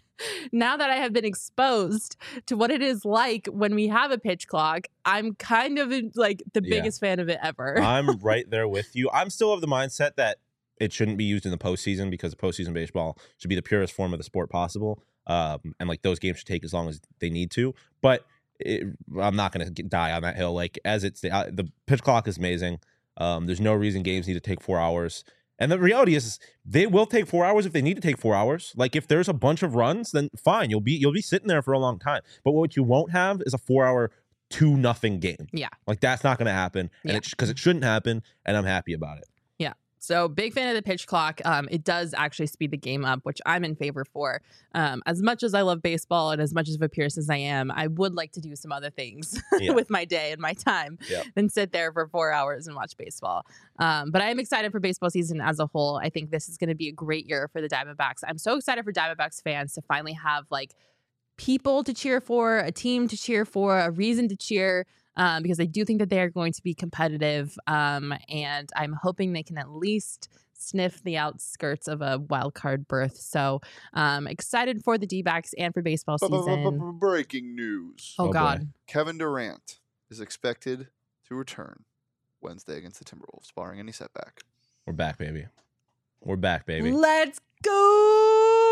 now that I have been exposed to what it is like when we have a pitch clock, I'm kind of like the Yeah. biggest fan of it ever. I'm right there with you. I'm still of the mindset that it shouldn't be used in the postseason because the postseason baseball should be the purest form of the sport possible. Um, and like those games should take as long as they need to. But it, I'm not going to die on that hill. Like as it's uh, the pitch clock is amazing. Um, there's no reason games need to take four hours. And the reality is, they will take four hours if they need to take four hours. Like if there's a bunch of runs, then fine, you'll be you'll be sitting there for a long time. But what you won't have is a four-hour two nothing game. Yeah. Like that's not going to happen, and Yeah. it's because it shouldn't happen. And I'm happy about it. So big fan of the pitch clock. Um, it does actually speed the game up, which I'm in favor for. Um, as much as I love baseball and as much of a purist as I am, I would like to do some other things Yeah. with my day and my time Yep. than sit there for four hours and watch baseball. Um, but I am excited for baseball season as a whole. I think this is going to be a great year for the Diamondbacks. I'm so excited for Diamondbacks fans to finally have like people to cheer for, a team to cheer for, a reason to cheer. Um, because I do think that they are going to be competitive. Um, and I'm hoping they can at least sniff the outskirts of a wild card berth. So um, excited for the D-backs and for baseball season. Breaking news. Oh, Oh, boy. God. Kevin Durant is expected to return Wednesday against the Timberwolves, barring any setback. We're back, baby. We're back, baby. Let's go.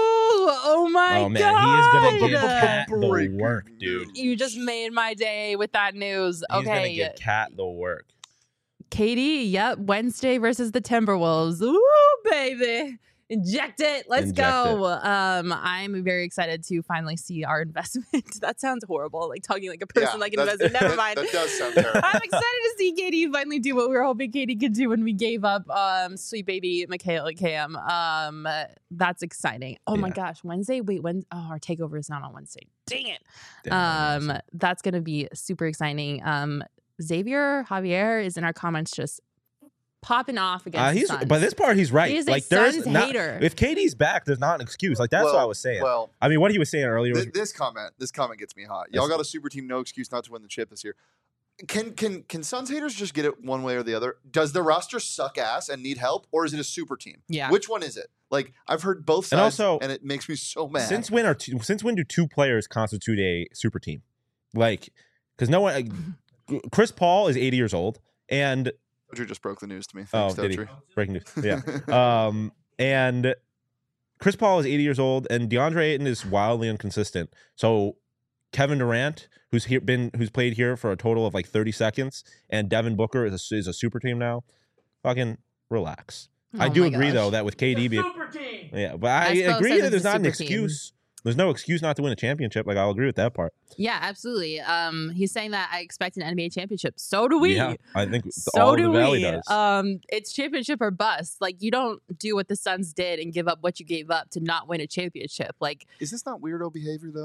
Oh, my Oh man, God. he is gonna give God. Cat the Breaking work, dude. You just made my day with that news. He's gonna Okay. give Cat the work. Katie, yep. Wednesday versus the Timberwolves. Ooh, baby. Inject it. Let's Inject go. Um, I'm very excited to finally see our investment. That sounds horrible. Like talking like a person like an that's- investment. Never that- mind. That does sound terrible. I'm excited to see Katie finally do what we were hoping Katie could do when we gave up um sweet baby Michaela Cam. Um that's exciting. Oh my Yeah. gosh. Wednesday. Wait, when oh our takeover is not on Wednesday. Dang it. Damn, Um that's gonna be super exciting. Um Xavier Javier is in our comments just popping off against Uh, the he's Suns. by this part he's right. He is a like there's Suns not, hater. if Katie's back, there's not an excuse. Like that's well, what I was saying. Well, I mean, what he was saying earlier was th- this comment, this comment gets me hot. Y'all got a super team, no excuse not to win the chip this year. Can can can Suns haters just get it one way or the other? Does the roster suck ass and need help, or is it a super team? Yeah. Which one is it? Like I've heard both And sides, also, and it makes me so mad. since when are two, since when do two players constitute a super team? Like, because no one. Like, Chris Paul is eighty years old, and Dozier just broke the news to me. oh, Thanks, did he? Dozier. Breaking news. Yeah. Um, and Chris Paul is eighty years old, and DeAndre Ayton is wildly inconsistent. So Kevin Durant, who's here, been who's played here for a total of like thirty seconds, and Devin Booker is a, is a super team now. Fucking relax. I Oh do my agree gosh. though that with K D being Super team. yeah, but I Espo agree says that it's there's a not an super team. excuse. There's no excuse not to win a championship. Like I'll agree with that part. Yeah, absolutely. Um, he's saying that I expect an N B A championship. So do we. Yeah, I think So all do the Valley we. does. Um, it's championship or bust. Like you don't do what the Suns did and give up what you gave up to not win a championship. Like Is this not weirdo behavior though?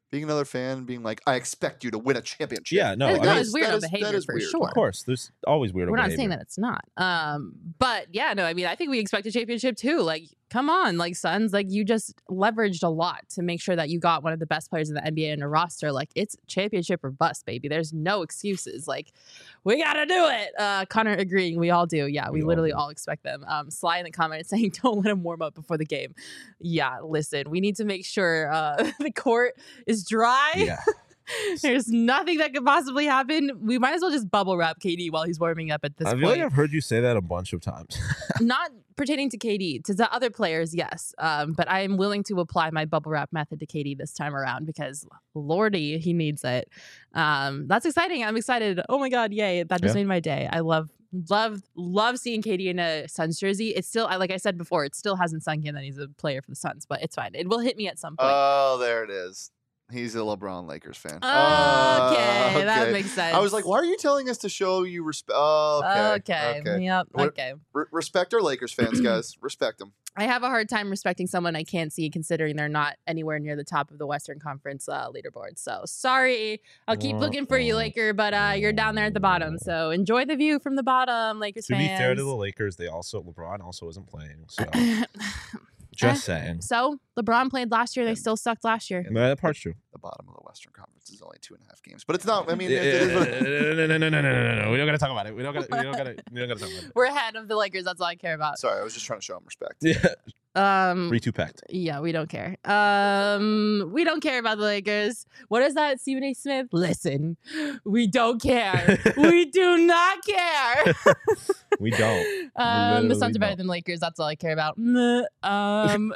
being another fan, being like, I expect you to win a championship. Yeah, no, That- I that mean, is weirdo that is- behavior that is for weird. sure. of course, there's always weirdo We're not behavior. saying that it's not. Um, but yeah, no, I mean, I think we expect a championship too. Like, come on, like Suns, like you just leveraged a lot to make sure that you got one of the best players in the N B A in a roster. Like, it's championship or bust, baby. There's no excuses. Like, we gotta do it. Uh, Connor agreeing, we all do. Yeah, we, We all literally do. all expect them. Um, Sly in the comments saying, "Don't let him warm up before the game." Yeah, listen, we need to make sure uh, the court is dry. Yeah. There's nothing that could possibly happen. We might as well just bubble wrap K D while he's warming up at this I feel point. like I've heard you say that a bunch of times. Not pertaining to K D, to the other players, yes. Um, but I am willing to apply my bubble wrap method to K D this time around because Lordy, he needs it. Um, that's exciting. I'm excited. Oh my God, yay. That just Yeah. made my day. I love, love, love seeing K D in a Suns jersey. It's still, I- like I said before, it still hasn't sunk in that he's a player for the Suns, but it's fine. It will hit me at some point. Oh, there it is. He's a LeBron Lakers fan. okay, Oh, that okay. makes sense. I was like, why are you telling us to show you respect? Oh, okay. Okay. okay. Yep. What- Okay. Re- respect our Lakers fans, guys. Respect them. I have a hard time respecting someone I can't see, considering they're not anywhere near the top of the Western Conference uh, leaderboard. So sorry, I'll keep looking for you, Laker, but uh, you're down there at the bottom. So enjoy the view from the bottom, Lakers To be fans. fair to the Lakers, they also LeBron also isn't playing. So just saying. So LeBron played last year. They still sucked last year. No, that part's true. The bottom of the Western Conference is only two and a half games, but it's not. I mean, Yeah, it, it is what it- no, no, no, no, no, no, no, no. We don't gotta talk about it. We don't gotta. We don't gotta. We don't gotta talk about it. We're ahead of the Lakers. That's all I care about. Sorry, I was just trying to show them respect. Yeah, Um, three two packed. Yeah, we don't care. Um, we don't care about the Lakers. What is that, Stephen A. Smith? Listen, we don't care. we do not care. We don't. Um, the literally Suns are better don't. than Lakers. That's all I care about. Meh. Um,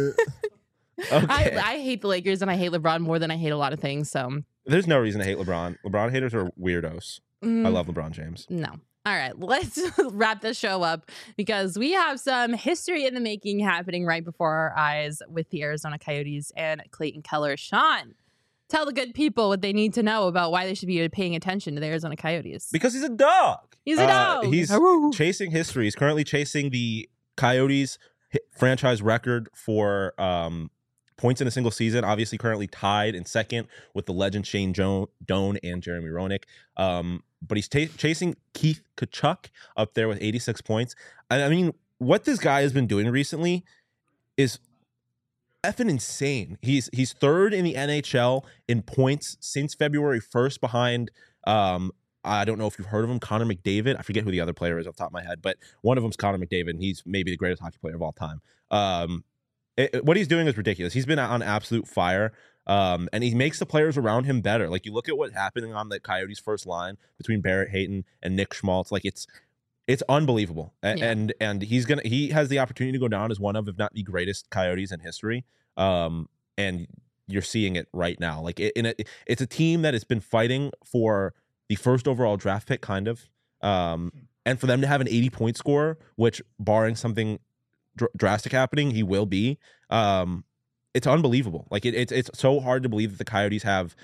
Okay. I, I hate the Lakers and I hate LeBron more than I hate a lot of things. So There's no reason to hate LeBron. LeBron haters are weirdos. mm, I love LeBron James. No. All right, let's wrap this show up because we have some history in the making happening right before our eyes with the Arizona Coyotes and Clayton Keller. Sean, tell the good people what they need to know about why they should be paying attention to the Arizona Coyotes. Because he's a dog. He's a Uh, dog. he's Aroo. chasing history. He's currently chasing the Coyotes hi- franchise record for um, points in a single season. Obviously, currently tied in second with the legend Shane jo- Doan and Jeremy Roenick. Um, but he's ta- chasing Keith Kachuk up there with eighty-six points. And I mean, what this guy has been doing recently is effing insane. He's he's third in the N H L in points since February first, behind um, I don't know if you've heard of him, Connor McDavid. I forget who the other player is off the top of my head, but one of them's Connor McDavid, and he's maybe the greatest hockey player of all time. Um, it- it- what he's doing is ridiculous. He's been on absolute fire, um, and he makes the players around him better. Like, you look at what's happening on the Coyotes' first line between Barrett Hayton and Nick Schmaltz. Like, it's it's unbelievable, A- Yeah. and and he's gonna he has the opportunity to go down as one of, if not the greatest Coyotes in history. Um, and you're seeing it right now. Like, it, in a, it's a team that has been fighting for the first overall draft pick, kind of. Um, and for them to have an eighty point score, which, barring something dr- drastic happening, he will be. Um, it's unbelievable. Like, it, it's it's so hard to believe that the Coyotes have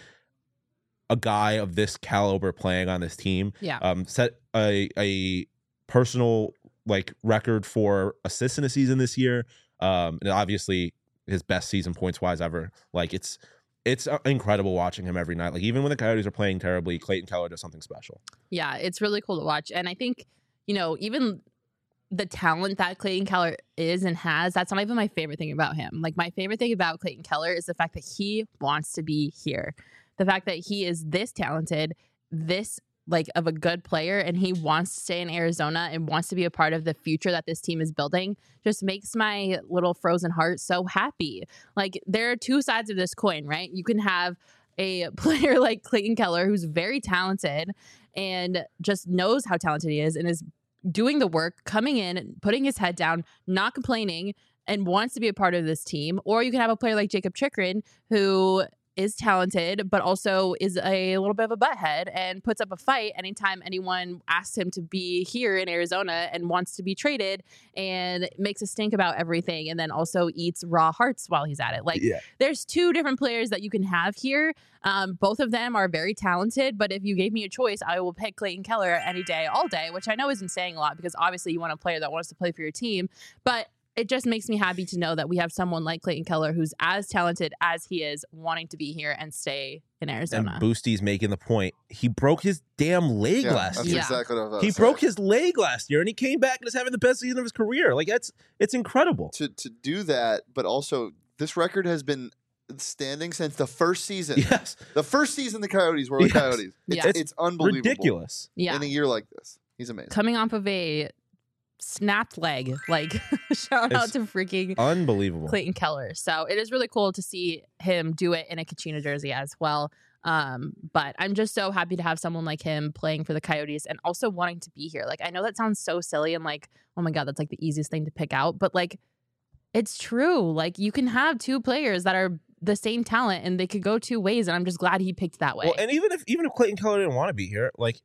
a guy of this caliber playing on this team. Yeah. Um, set a a personal like record for assists in a season this year. Um, and obviously his best season points wise ever. Like, it's it's uh, incredible watching him every night. Like, even when the Coyotes are playing terribly, Clayton Keller does something special. Yeah, it's really cool to watch. And I think, you know, even the talent that Clayton Keller is and has, that's not even my favorite thing about him. Like, my favorite thing about Clayton Keller is the fact that he wants to be here. The fact that he is this talented, this like of a good player, and he wants to stay in Arizona and wants to be a part of the future that this team is building just makes my little frozen heart so happy. Like, there are two sides of this coin, right? You can have a player like Clayton Keller who's very talented and just knows how talented he is and is doing the work, coming in, putting his head down, not complaining, and wants to be a part of this team. Or you can have a player like Jacob Chikrin who is talented, but also is a little bit of a butthead and puts up a fight anytime anyone asks him to be here in Arizona and wants to be traded, and makes a stink about everything, and then also eats raw hearts while he's at it. Like, Yeah. there's two different players that you can have here. Um, both of them are very talented, but if you gave me a choice, I will pick Clayton Keller any day, all day, which I know isn't saying a lot because obviously you want a player that wants to play for your team, but it just makes me happy to know that we have someone like Clayton Keller who's as talented as he is, wanting to be here and stay in Arizona. And Boostie's making the point. He broke his damn leg Yeah, last that's year. Yeah. exactly what I was about He to say. broke his leg last year, and he came back and is having the best season of his career. Like that's it's incredible. to to do that, but also this record has been standing since the first season. Yes, The first season the Coyotes were the Yes. Coyotes. It's, Yeah. it's, It's unbelievable. ridiculous. Yeah. In a year like this. He's amazing. Coming off of a snapped leg, like shout out It's to freaking Unbelievable. Clayton Keller. So it is really cool to see him do it in a Kachina jersey as well. Um, but I'm just so happy to have someone like him playing for the Coyotes and also wanting to be here. Like, I know that sounds so silly and like, oh my God, that's like the easiest thing to pick out. But like, it's true. Like, you can have two players that are the same talent and they could go two ways. And I'm just glad he picked that way. Well, and even if even if Clayton Keller didn't want to be here, like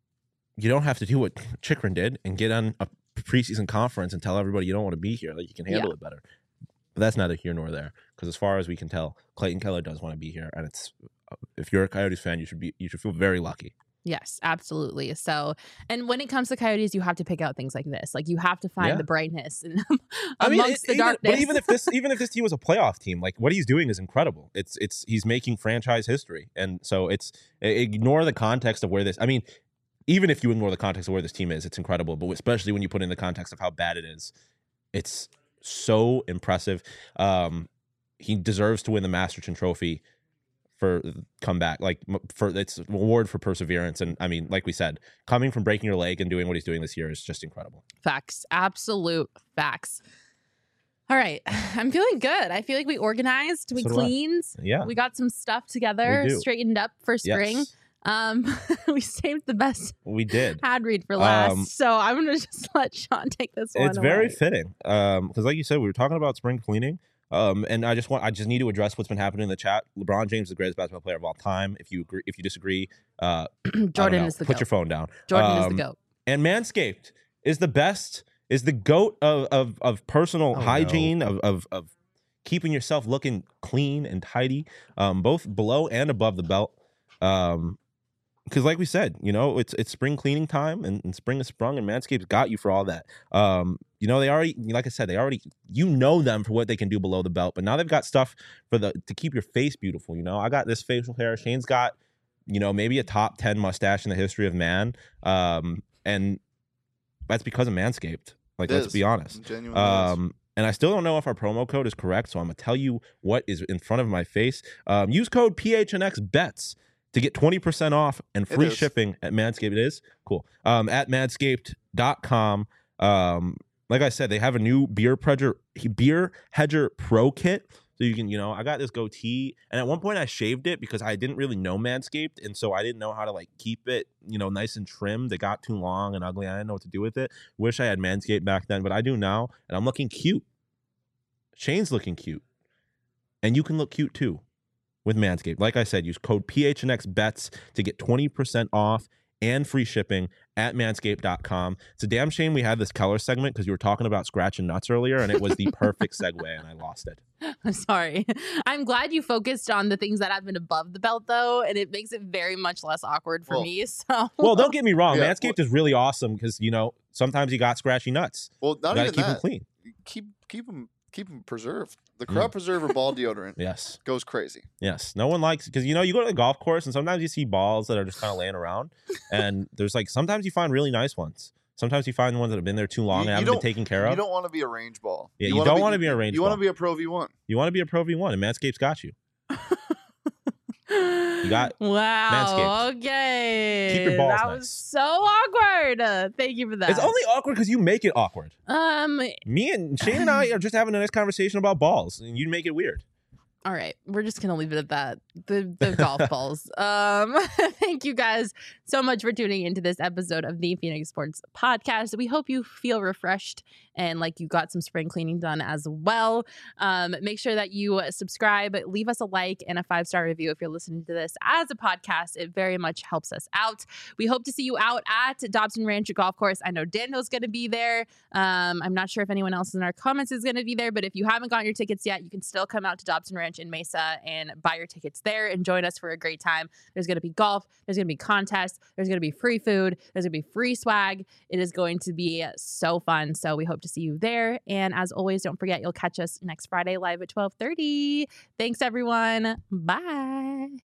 you don't have to do what Chikrin did and get on a preseason conference and tell everybody you don't want to be here. Like you can handle Yeah. it better. But that's neither here nor there. Because as far as we can tell, Clayton Keller does want to be here, and it's if you're a Coyotes fan, you should be you should feel very lucky. Yes, absolutely. So, and when it comes to Coyotes, you have to pick out things like this. Like, you have to find Yeah. the brightness and I mean, amongst it- the even, darkness. but even if this even if this team was a playoff team, like what he's doing is incredible. It's it's he's making franchise history, and so it's ignore the context of where this. I mean, even if you ignore the context of where this team is, it's incredible. But especially when you put in the context of how bad it is, it's so impressive. Um, he deserves to win the Masterton Trophy for comeback, like m- for it's an award for perseverance. And I mean, like we said, coming from breaking your leg and doing what he's doing this year is just incredible. Facts. Absolute facts. All right. I'm feeling good. I feel like we organized, we So do I. cleaned, Yeah. we got some stuff together, We do. straightened up for spring. Yes, Um, we saved the best we did. ad read for last. Um, so I'm going to just let Sean take this one It's very away. fitting. Um, because like you said, we were talking about spring cleaning. Um, and I just want I just need to address what's been happening in the chat. LeBron James is the greatest basketball player of all time. If you agree, if you disagree, uh, I don't Jordan know. is the put goat. your phone down. Jordan is Um, the goat. And Manscaped is the best, is the goat of of, of personal Oh, no. hygiene, of, of of keeping yourself looking clean and tidy, um, both below and above the belt. Um, because like we said, you know, it's it's spring cleaning time, and, and spring is sprung, and Manscaped's got you for all that. Um, you know, they already, like I said, they already, you know them for what they can do below the belt, but now they've got stuff for the to keep your face beautiful. You know, I got this facial hair. Shane's got, you know, maybe a top ten mustache in the history of man, um, and that's because of Manscaped. Like, It let's is. be honest. Genuinely is. Um, and I still don't know if our promo code is correct, so I'm gonna tell you what is in front of my face. Um, use code P H N X bets to get twenty percent off and free is. shipping at Manscaped. It is cool. Um, at manscaped dot com. Um, like I said, they have a new beer hedger beer hedger pro kit. So you can, you know, I got this goatee, and at one point I shaved it because I didn't really know Manscaped, and so I didn't know how to like keep it, you know, nice and trimmed. It got too long and ugly. I didn't know what to do with it. Wish I had Manscaped back then, but I do now, and I'm looking cute. Shane's looking cute, and you can look cute too with Manscaped. Like I said, use code P H N X bets to get twenty percent off and free shipping at manscaped dot com. It's a damn shame we had this Keller segment because you were talking about scratching nuts earlier, and it was the perfect segue, and I lost it. I'm sorry. I'm glad you focused on the things that happen above the belt, though, and it makes it very much less awkward for Well- me. So, Well, don't get me wrong. Yeah, Manscaped is really awesome because, you know, sometimes you got scratchy nuts. well, You not got to even keep that. them clean. Keep keep them keep them preserved. The Crop Preserver ball deodorant Yes. goes crazy. Yes. No one likes, because, you know, you go to the golf course and sometimes you see balls that are just kind of laying around. And there's like, sometimes you find really nice ones. Sometimes you find ones that have been there too long You- and you haven't been don't- taken care You of. don't want to be a range ball. Yeah, you wanna don't wanna be a range You ball. want to be a Pro V one. You want to be a Pro V one, and Manscaped's got you. You got wow. Manscaped. Okay. Keep your balls That nice. was so awkward. Uh, thank you for that. It's only awkward because you make it awkward. um. Me and Shane and I are just having a nice conversation about balls, and you make it weird. All right, we're just gonna leave it at that. The the golf balls. Um, thank you guys so much for tuning into this episode of the Phoenix Sports Podcast. We hope you feel refreshed and like you got some spring cleaning done as well. Um, make sure that you subscribe, leave us a like and a five star review if you're listening to this as a podcast. It very much helps us out. We hope to see you out at Dobson Ranch Golf Course. I know Daniel's going to be there. Um, I'm not sure if anyone else in our comments is going to be there, but if you haven't gotten your tickets yet, you can still come out to Dobson Ranch Ranch in Mesa and buy your tickets there and join us for a great time. There's going to be golf. There's going to be contests. There's going to be free food. There's going to be free swag. It is going to be so fun. So we hope to see you there. And as always, don't forget, you'll catch us next Friday live at twelve thirty. Thanks, everyone. Bye.